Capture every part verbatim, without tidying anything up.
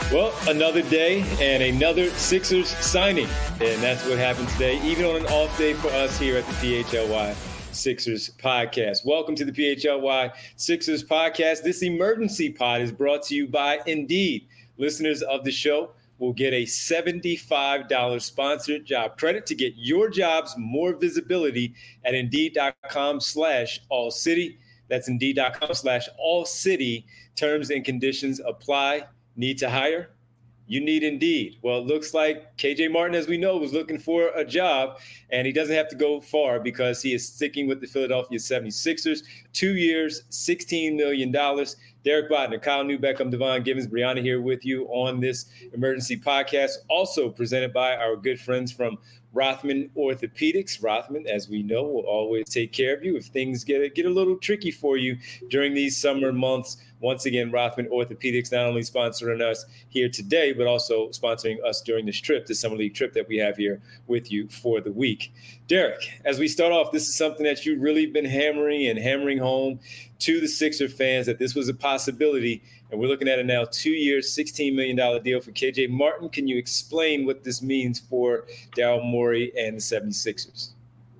Well, another day and another Sixers signing. And that's what happened today, even on an off day for us here at the P H L Y Sixers Podcast. Welcome to the P H L Y Sixers Podcast. This emergency pod is brought to you by Indeed. Listeners of the show will get a seventy-five dollars sponsored job credit to get your jobs more visibility at Indeed.com slash All City. That's Indeed.com slash All City. Terms and conditions apply. Need to hire? You need Indeed. Well, it looks like K J Martin, as we know, was looking for a job, and he doesn't have to go far because he is sticking with the Philadelphia seventy-sixers. Two years, sixteen million dollars. Derek Bodner, Kyle Newbeck, I'm Devon Givens, Brianna here with you on this emergency podcast, also presented by our good friends from Rothman Orthopedics. Rothman, as we know, will always take care of you if things get, get a little tricky for you during these summer months. Once again, Rothman Orthopedics not only sponsoring us here today, but also sponsoring us during this trip, the Summer League trip that we have here with you for the week. Derek, as we start off, this is something that you've really been hammering and hammering home to the Sixer fans that this was a possibility, and we're looking at it now, two years, sixteen million dollars deal for K J Martin. Can you explain what this means for Daryl Morey and the seventy-sixers?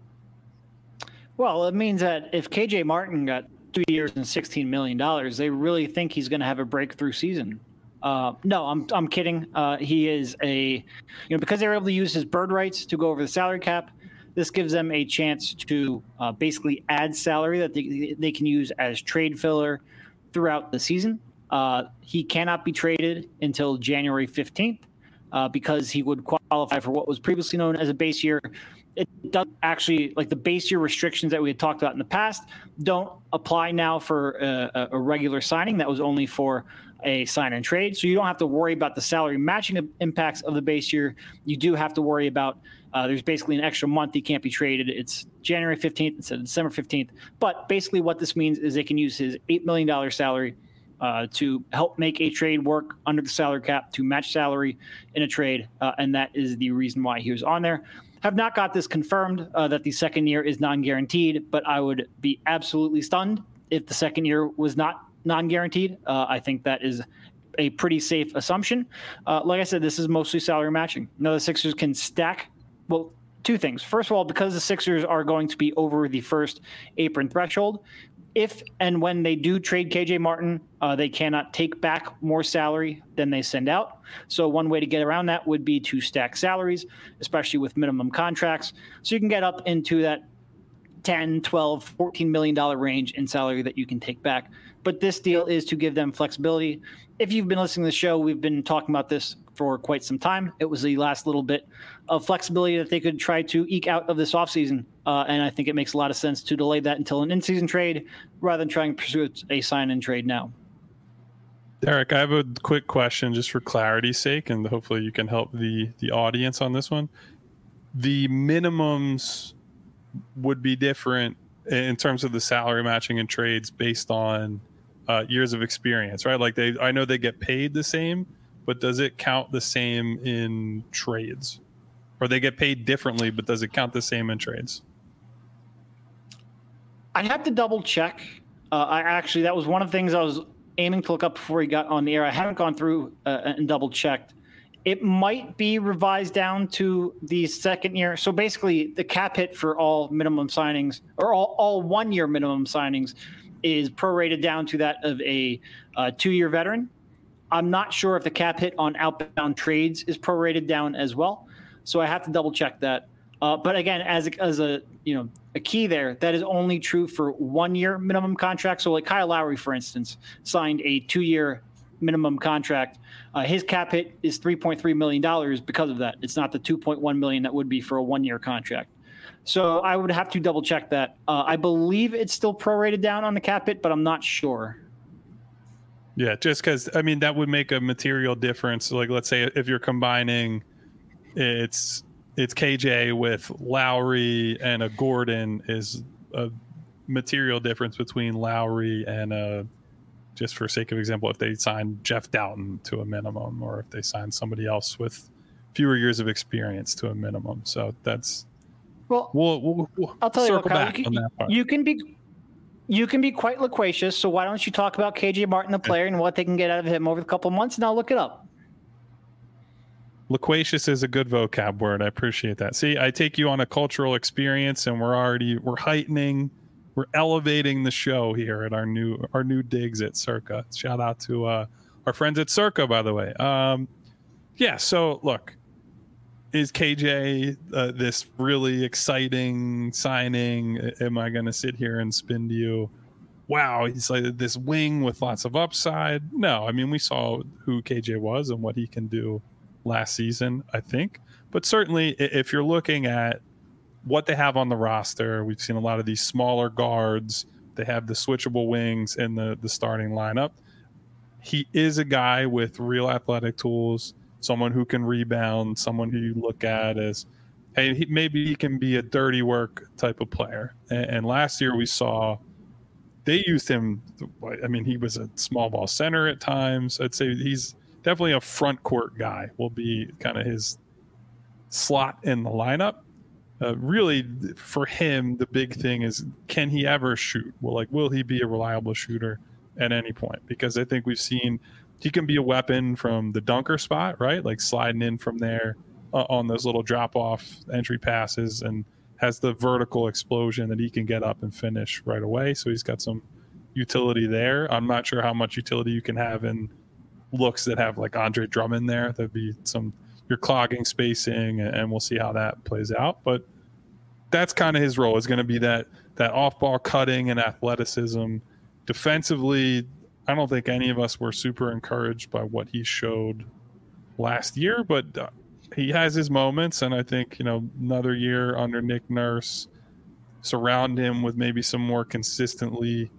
Well, it means that if K J Martin got two years and sixteen million dollars, they really think he's going to have a breakthrough season. Uh, no, I'm I'm kidding. Uh, he is a, you know, because they're able to use his bird rights to go over the salary cap, this gives them a chance to uh, basically add salary that they, they can use as trade filler throughout the season. Uh, he cannot be traded until January fifteenth uh, because he would qualify for what was previously known as a base year. It doesn't actually, like the base year restrictions that we had talked about in the past, don't apply now for a, a regular signing. That was only for a sign and trade. So you don't have to worry about the salary matching impacts of the base year. You do have to worry about uh, there's basically an extra month he can't be traded. It's January fifteenth instead of December fifteenth. But basically what this means is they can use his eight million dollars salary uh, to help make a trade work under the salary cap to match salary in a trade. Uh, and that is the reason why he was on there. Have not got this confirmed uh, that the second year is non-guaranteed, but I would be absolutely stunned if the second year was not non-guaranteed. Uh, I think that is a pretty safe assumption. Uh, like I said, this is mostly salary matching. Now the Sixers can stack, well, two things. First of all, because the Sixers are going to be over the first apron threshold, if and when they do trade K J Martin, uh, they cannot take back more salary than they send out. So one way to get around that would be to stack salaries, especially with minimum contracts. So you can get up into that ten, twelve, fourteen million dollars range in salary that you can take back. But this deal is to give them flexibility. If you've been listening to the show, we've been talking about this for quite some time. It was the last little bit of flexibility that they could try to eke out of this offseason. Uh, and I think it makes a lot of sense to delay that until an in-season trade rather than trying to pursue a sign-and trade now. Derek, I have a quick question just for clarity's sake, and hopefully you can help the, the audience on this one. The minimums would be different in terms of the salary matching and trades based on uh, years of experience, right? Like they, I know they get paid the same, but does it count the same in trades? Or they get paid differently, but does it count the same in trades? I have to double check. Uh, I actually, that was one of the things I was aiming to look up before he got on the air. I haven't gone through uh, and double checked. It might be revised down to the second year. So basically the cap hit for all minimum signings or all, all one year minimum signings is prorated down to that of a uh, two year veteran. I'm not sure if the cap hit on outbound trades is prorated down as well. So I have to double check that. Uh, but again, as a, as a, you know, a key there, that is only true for one year minimum contract. So like Kyle Lowry, for instance, signed a two year minimum contract. Uh, his cap hit is three point three million dollars because of that. It's not the two point one million dollars that would be for a one year contract. So I would have to double check that. Uh, I believe it's still prorated down on the cap hit, but I'm not sure. Yeah, just because, I mean, that would make a material difference. Like, let's say if you're combining, it's it's K J with Lowry and a Gordon is a material difference between Lowry and a, just for sake of example, if they sign Jeff Doughton to a minimum, or if they sign somebody else with fewer years of experience to a minimum. So that's, well, we'll, we'll, we'll I'll tell you what, Kyle, back you, can, on that part. you can be you can be quite loquacious. So why don't you talk about K J Martin, the player, and what they can get out of him over the couple of months, and I'll look it up. Loquacious is a good vocab word. I appreciate that. See, I take you on a cultural experience, and we're already we're heightening, we're elevating the show here at our new our new digs at Circa. Shout out to uh, our friends at Circa, by the way. Um, yeah. So look, is K J uh, this really exciting signing? Am I going to sit here and spin to you, wow, he's like this wing with lots of upside? No, I mean, we saw who K J was and what he can do last season, I think. But certainly, if you're looking at what they have on the roster, we've seen a lot of these smaller guards. They have the switchable wings in the, the starting lineup. He is a guy with real athletic tools, someone who can rebound, someone who you look at as, hey, he, maybe he can be a dirty work type of player. And, and last year we saw they used him. I mean, he was a small ball center at times. I'd say he's definitely a front court guy, will be kind of his slot in the lineup. Uh, really, for him, the big thing is, can he ever shoot? Well, like, will he be a reliable shooter at any point? Because I think we've seen he can be a weapon from the dunker spot, right? Like sliding in from there uh, on those little drop-off entry passes, and has the vertical explosion that he can get up and finish right away. So he's got some utility there. I'm not sure how much utility you can have in looks that have like Andre Drummond there. That'd be some, you're clogging spacing, and we'll see how that plays out. But that's kind of his role, is going to be that that off-ball cutting and athleticism. Defensively, I don't think any of us were super encouraged by what he showed last year, but uh, he has his moments, and I think, you know, another year under Nick Nurse, surround him with maybe some more consistently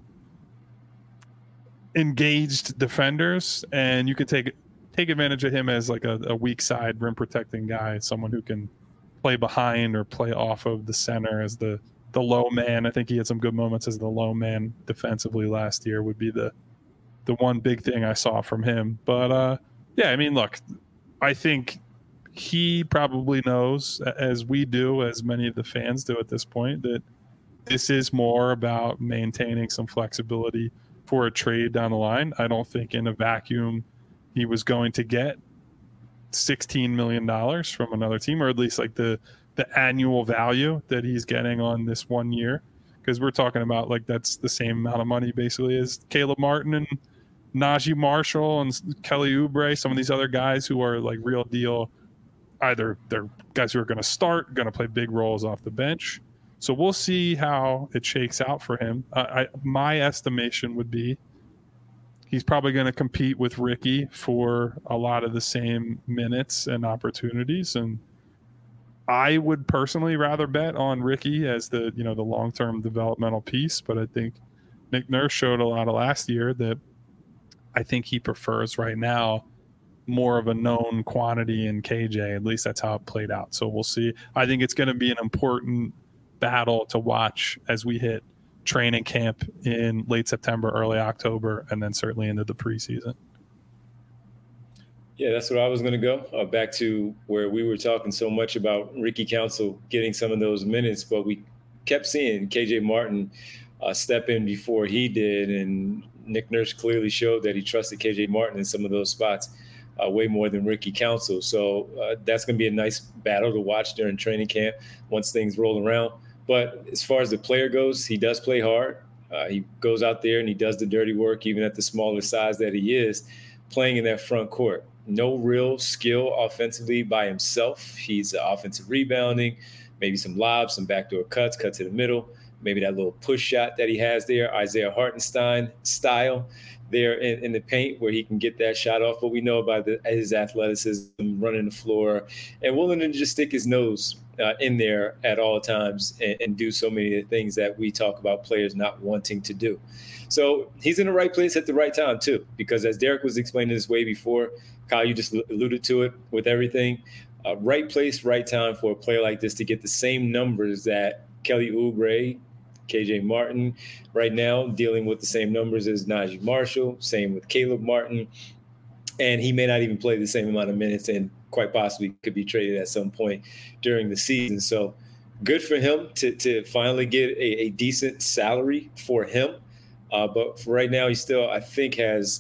engaged defenders, and you can take take advantage of him as like a, a weak side rim protecting guy, someone who can play behind or play off of the center as the the low man. I think he had some good moments as the low man defensively last year, would be the the one big thing I saw from him. But uh yeah, I mean, look, I think he probably knows, as we do, as many of the fans do at this point, that this is more about maintaining some flexibility for a trade down the line. I don't think in a vacuum he was going to get sixteen million dollars from another team, or at least like the the annual value that he's getting on this one year, because we're talking about like that's the same amount of money basically as Caleb Martin and Najee Marshall and Kelly Oubre, some of these other guys who are like real deal. Either they're guys who are going to start, going to play big roles off the bench. So we'll see how it shakes out for him. Uh, I, my estimation would be he's probably going to compete with Ricky for a lot of the same minutes and opportunities. And I would personally rather bet on Ricky as the, you know, the long-term developmental piece. But I think Nick Nurse showed a lot of last year that I think he prefers right now more of a known quantity in K J. At least that's how it played out. So we'll see. I think it's going to be an important battle to watch as we hit training camp in late September, early October, and then certainly into the preseason. Yeah, that's where I was going to go. Uh, back to where we were talking so much about Ricky Council getting some of those minutes, but we kept seeing K J Martin uh, step in before he did, and Nick Nurse clearly showed that he trusted K J Martin in some of those spots uh, way more than Ricky Council. So uh, that's going to be a nice battle to watch during training camp once things roll around. But as far as the player goes, he does play hard. Uh, he goes out there and he does the dirty work, even at the smaller size that he is, playing in that front court. No real skill offensively by himself. He's offensive rebounding, maybe some lobs, some backdoor cuts, cut to the middle, maybe that little push shot that he has there, Isaiah Hartenstein style there in, in the paint where he can get that shot off. But we know about the, his athleticism, running the floor, and willing to just stick his nose uh, in there at all times and, and do so many of the things that we talk about players not wanting to do. So he's in the right place at the right time, too, because as Derek was explaining this way before, Kyle, you just alluded to it with everything. Uh, right place, right time for a player like this to get the same numbers that Kelly Oubre, K J Martin, right now dealing with the same numbers as Najee Marshall, same with Caleb Martin. And he may not even play the same amount of minutes and quite possibly could be traded at some point during the season. So good for him to, to finally get a, a decent salary for him. Uh, but for right now, he still, I think, has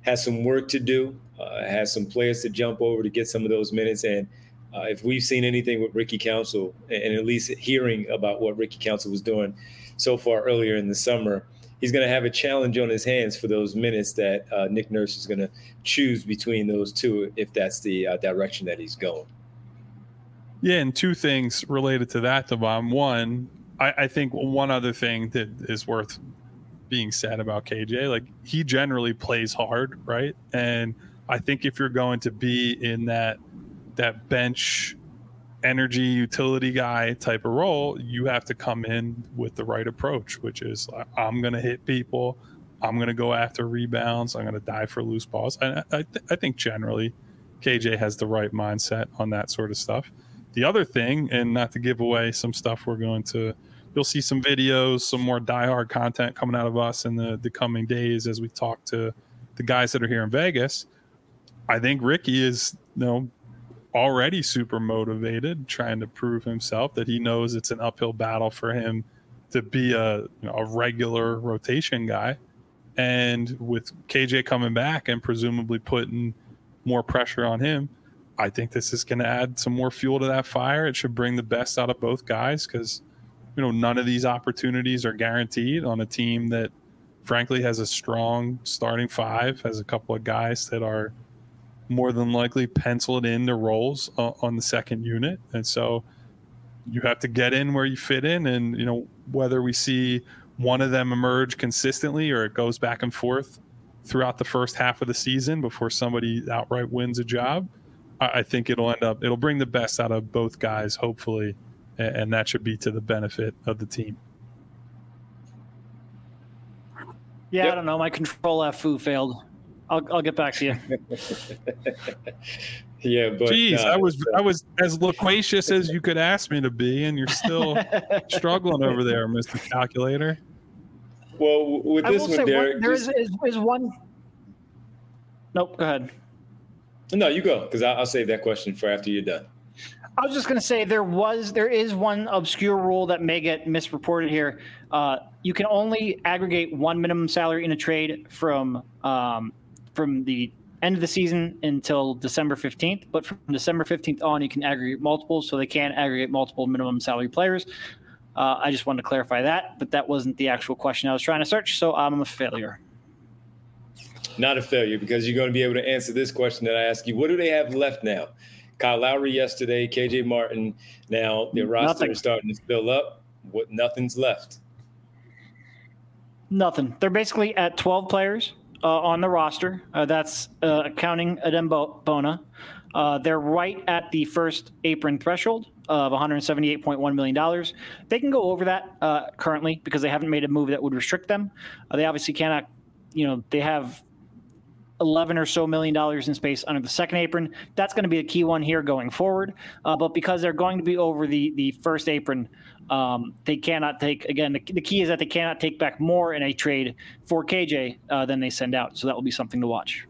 has some work to do, uh, has some players to jump over to get some of those minutes. And uh, if we've seen anything with Ricky Council, and at least hearing about what Ricky Council was doing so far earlier in the summer, he's going to have a challenge on his hands for those minutes that uh, Nick Nurse is going to choose between those two if that's the uh, direction that he's going. Yeah, and two things related to that, Devon. One, I, I think one other thing that is worth being said about K J, like he generally plays hard, right? And I think if you're going to be in that that bench energy utility guy type of role, you have to come in with the right approach, which is I'm going to hit people, I'm going to go after rebounds, I'm going to dive for loose balls. And I, th- I think generally K J has the right mindset on that sort of stuff. The other thing, and not to give away some stuff we're going to you'll see some videos, some more diehard content coming out of us in the, the coming days as we talk to the guys that are here in Vegas. I think Ricky is, you know, already super motivated, trying to prove himself that he knows it's an uphill battle for him to be a, you know, a regular rotation guy. And with K J coming back and presumably putting more pressure on him, I think this is going to add some more fuel to that fire. It should bring the best out of both guys because, you know, none of these opportunities are guaranteed on a team that frankly has a strong starting five, has a couple of guys that are more than likely penciled into roles uh, on the second unit. And so you have to get in where you fit in. And, you know, whether we see one of them emerge consistently or it goes back and forth throughout the first half of the season before somebody outright wins a job, I, I think it'll end up, it'll bring the best out of both guys, hopefully. And that should be to the benefit of the team. Yeah, yep. I don't know. My control F foo failed. I'll I'll get back to you. yeah, but Jeez, uh, I was I was as loquacious as you could ask me to be, and you're still struggling over there, Mister Calculator. Well, with this one, Derek, one, there just... is, is, is one. Nope, go ahead. No, you go, because I'll, I'll save that question for after you're done. I was just going to say there was there is one obscure rule that may get misreported here. Uh, you can only aggregate one minimum salary in a trade from um, from the end of the season until December fifteenth. But from December fifteenth on, you can aggregate multiples, so they can aggregate multiple minimum salary players. Uh, I just wanted to clarify that, but that wasn't the actual question I was trying to search, so I'm a failure. Not a failure, because you're going to be able to answer this question that I asked you. What do they have left now? Kyle Lowry yesterday, K J Martin. Now their roster Nothing. is starting to fill up. What? Nothing's left. Nothing. They're basically at twelve players uh, on the roster. Uh, that's uh, counting Adem Bona. Uh, they're right at the first apron threshold of one hundred seventy-eight point one million dollars. They can go over that uh, currently because they haven't made a move that would restrict them. Uh, they obviously cannot, you know, they have eleven or so million dollars in space under the second apron. That's going to be a key one here going forward. Uh, but because they're going to be over the, the first apron, um, they cannot take, again, the, the key is that they cannot take back more in a trade for K J uh, than they send out. So that will be something to watch.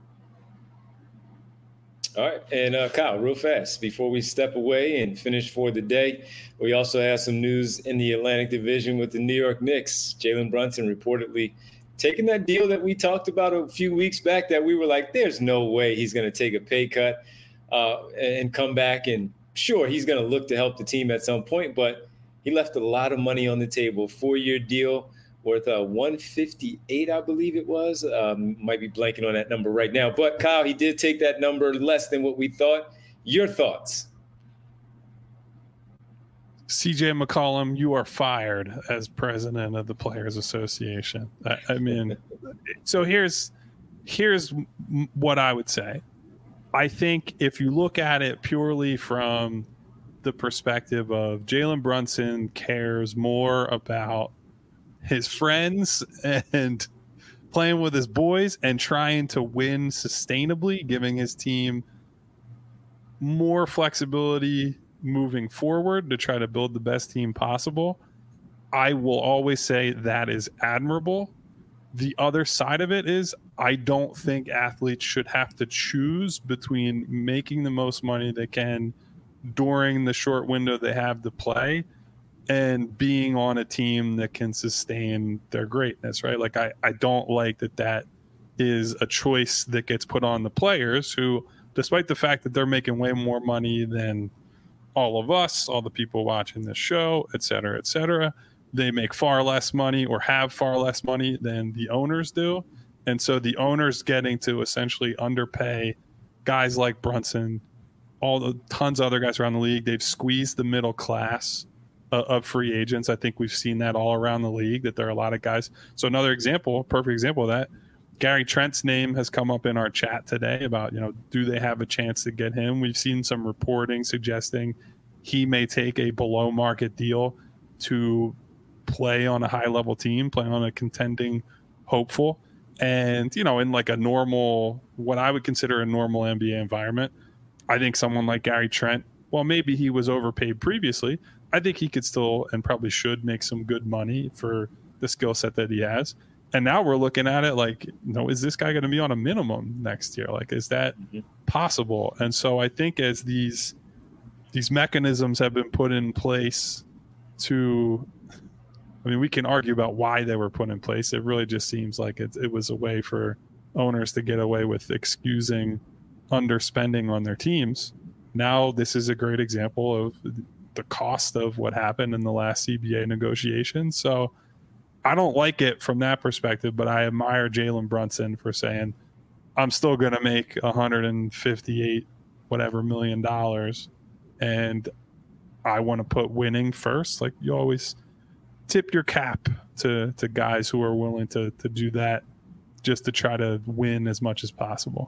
All right. And uh, Kyle, real fast, before we step away and finish for the day, we also have some news in the Atlantic Division with the New York Knicks. Jalen Brunson reportedly taking that deal that we talked about a few weeks back that we were like, there's no way he's going to take a pay cut uh, and come back. And sure, he's going to look to help the team at some point, but he left a lot of money on the table. Four-year deal worth uh, one fifty-eight, I believe it was. Um, might be blanking on that number right now. But, Kyle, he did take that number less than what we thought. Your thoughts? C J McCollum, you are fired as president of the Players Association. I, I mean, so here's here's what I would say. I think if you look at it purely from the perspective of Jalen Brunson cares more about his friends and playing with his boys and trying to win sustainably, giving his team more flexibility moving forward to try to build the best team possible. I will always say that is admirable. The other side of it is I don't think athletes should have to choose between making the most money they can during the short window they have to play and being on a team that can sustain their greatness, right? Like I, I don't like that that is a choice that gets put on the players who, despite the fact that they're making way more money than all of us, all the people watching this show, et cetera, et cetera, they make far less money or have far less money than the owners do. And so the owners getting to essentially underpay guys like Brunson, all the tons of other guys around the league. They've squeezed the middle class uh, of free agents. I think we've seen that all around the league, that there are a lot of guys. So another example, perfect example of that, Gary Trent's name has come up in our chat today about, you know, do they have a chance to get him? We've seen some reporting suggesting he may take a below market deal to play on a high level team, play on a contending hopeful. And, you know, in like a normal, what I would consider a normal N B A environment, I think someone like Gary Trent, well, maybe he was overpaid previously. I think he could still and probably should make some good money for the skill set that he has. And now we're looking at it like, you know, is this guy going to be on a minimum next year? Like, is that mm-hmm. possible? And so I think as these these mechanisms have been put in place to, I mean, we can argue about why they were put in place. It really just seems like it, it was a way for owners to get away with excusing underspending on their teams. Now this is a great example of the cost of what happened in the last C B A negotiation. So I don't like it from that perspective, but I admire Jalen Brunson for saying, I'm still going to make one hundred fifty-eight whatever million dollars, and I want to put winning first. Like, you always tip your cap to, to guys who are willing to, to do that just to try to win as much as possible.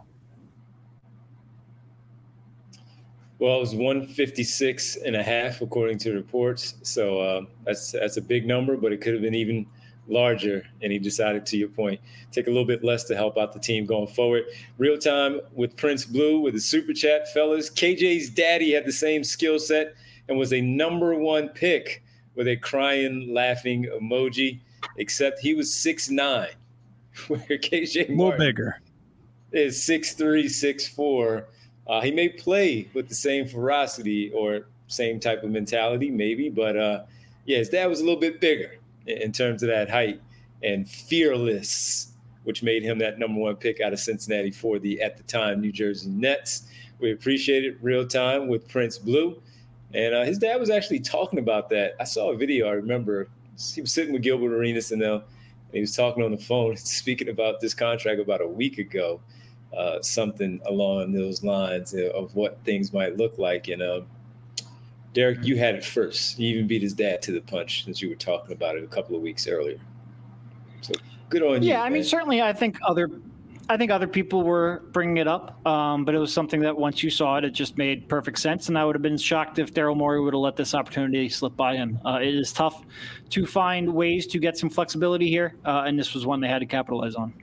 Well, it was one fifty-six and a half, according to reports. So uh, that's that's a big number, but it could have been even larger. And he decided, to your point, take a little bit less to help out the team going forward. Real time with Prince Blue with the super chat, fellas. K J's daddy had the same skill set and was a number one pick with a crying, laughing emoji, except he was six nine, where K J Martin a little bigger is six three, six four. Uh, he may play with the same ferocity or same type of mentality, maybe, but uh, yeah, his dad was a little bit bigger in, in terms of that height and fearless, which made him that number one pick out of Cincinnati for the, at the time, New Jersey Nets. We appreciate it. Real time with Prince Blue. And uh, his dad was actually talking about that. I saw a video, I remember. He was sitting with Gilbert Arenas and, uh, and he was talking on the phone, speaking about this contract about a week ago. Uh, something along those lines of what things might look like. And uh, Derek, you had it first. You even beat his dad to the punch since you were talking about it a couple of weeks earlier. So good on you. Yeah, I mean, certainly, I think other, I think other people were bringing it up, um, but it was something that once you saw it, it just made perfect sense. And I would have been shocked if Daryl Morey would have let this opportunity slip by him. Uh, it is tough to find ways to get some flexibility here, uh, and this was one they had to capitalize on.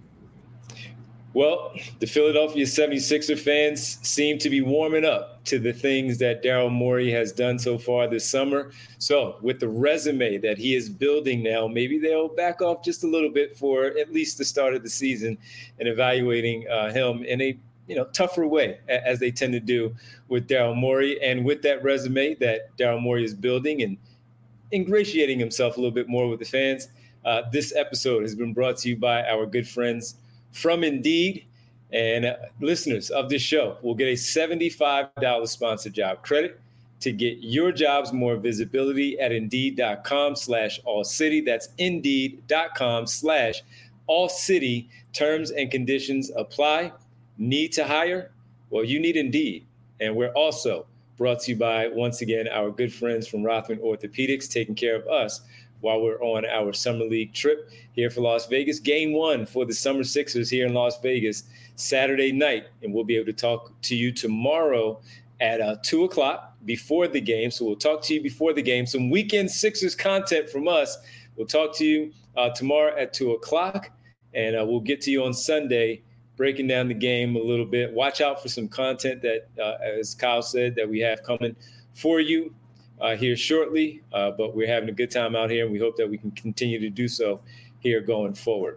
Well, the Philadelphia seventy-sixer fans seem to be warming up to the things that Daryl Morey has done so far this summer. So with the resume that he is building now, maybe they'll back off just a little bit for at least the start of the season and evaluating uh, him in a you know tougher way, as they tend to do with Daryl Morey. And with that resume that Daryl Morey is building and ingratiating himself a little bit more with the fans, uh, this episode has been brought to you by our good friends from Indeed. And uh, listeners of this show will get a seventy-five dollars sponsored job credit to get your jobs more visibility at Indeed.com slash All City. That's Indeed.com slash All City. Terms and conditions apply. Need to hire? Well, you need Indeed. And we're also brought to you by, once again, our good friends from Rothman Orthopedics, taking care of us while we're on our Summer League trip here for Las Vegas. Game one for the Summer Sixers here in Las Vegas, Saturday night. And we'll be able to talk to you tomorrow at uh, two o'clock before the game. So we'll talk to you before the game. Some weekend Sixers content from us. We'll talk to you uh, tomorrow at two o'clock. And uh, we'll get to you on Sunday, breaking down the game a little bit. Watch out for some content that, uh, as Kyle said, that we have coming for you Uh, here shortly, uh, but we're having a good time out here, and we hope that we can continue to do so here going forward.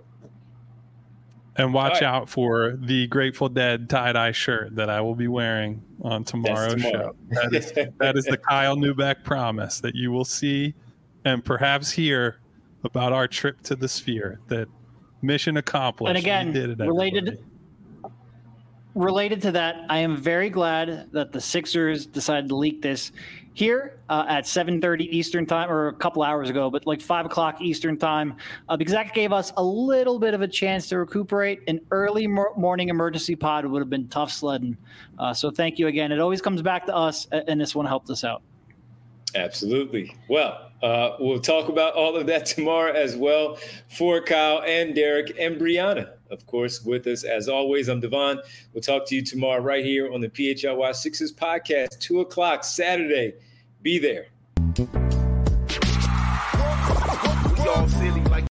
And watch right. out for the Grateful Dead tie-dye shirt that I will be wearing on tomorrow's tomorrow. show. That is, that is the Kyle Neubeck promise that you will see and perhaps hear about our trip to the Sphere that mission accomplished. And again, we did it, related related to that, I am very glad that the Sixers decided to leak this here uh, at seven thirty Eastern time, or a couple hours ago, but like five o'clock Eastern time, uh, because that gave us a little bit of a chance to recuperate. An early mor- morning emergency pod would have been tough sledding. Uh, so thank you again. It always comes back to us, and this one helped us out. Absolutely. Well, uh, we'll talk about all of that tomorrow as well. For Kyle and Derek and Brianna, of course, with us as always. I'm Devon. We'll talk to you tomorrow right here on the P H L Y Sixers podcast, two o'clock Saturday. Be there.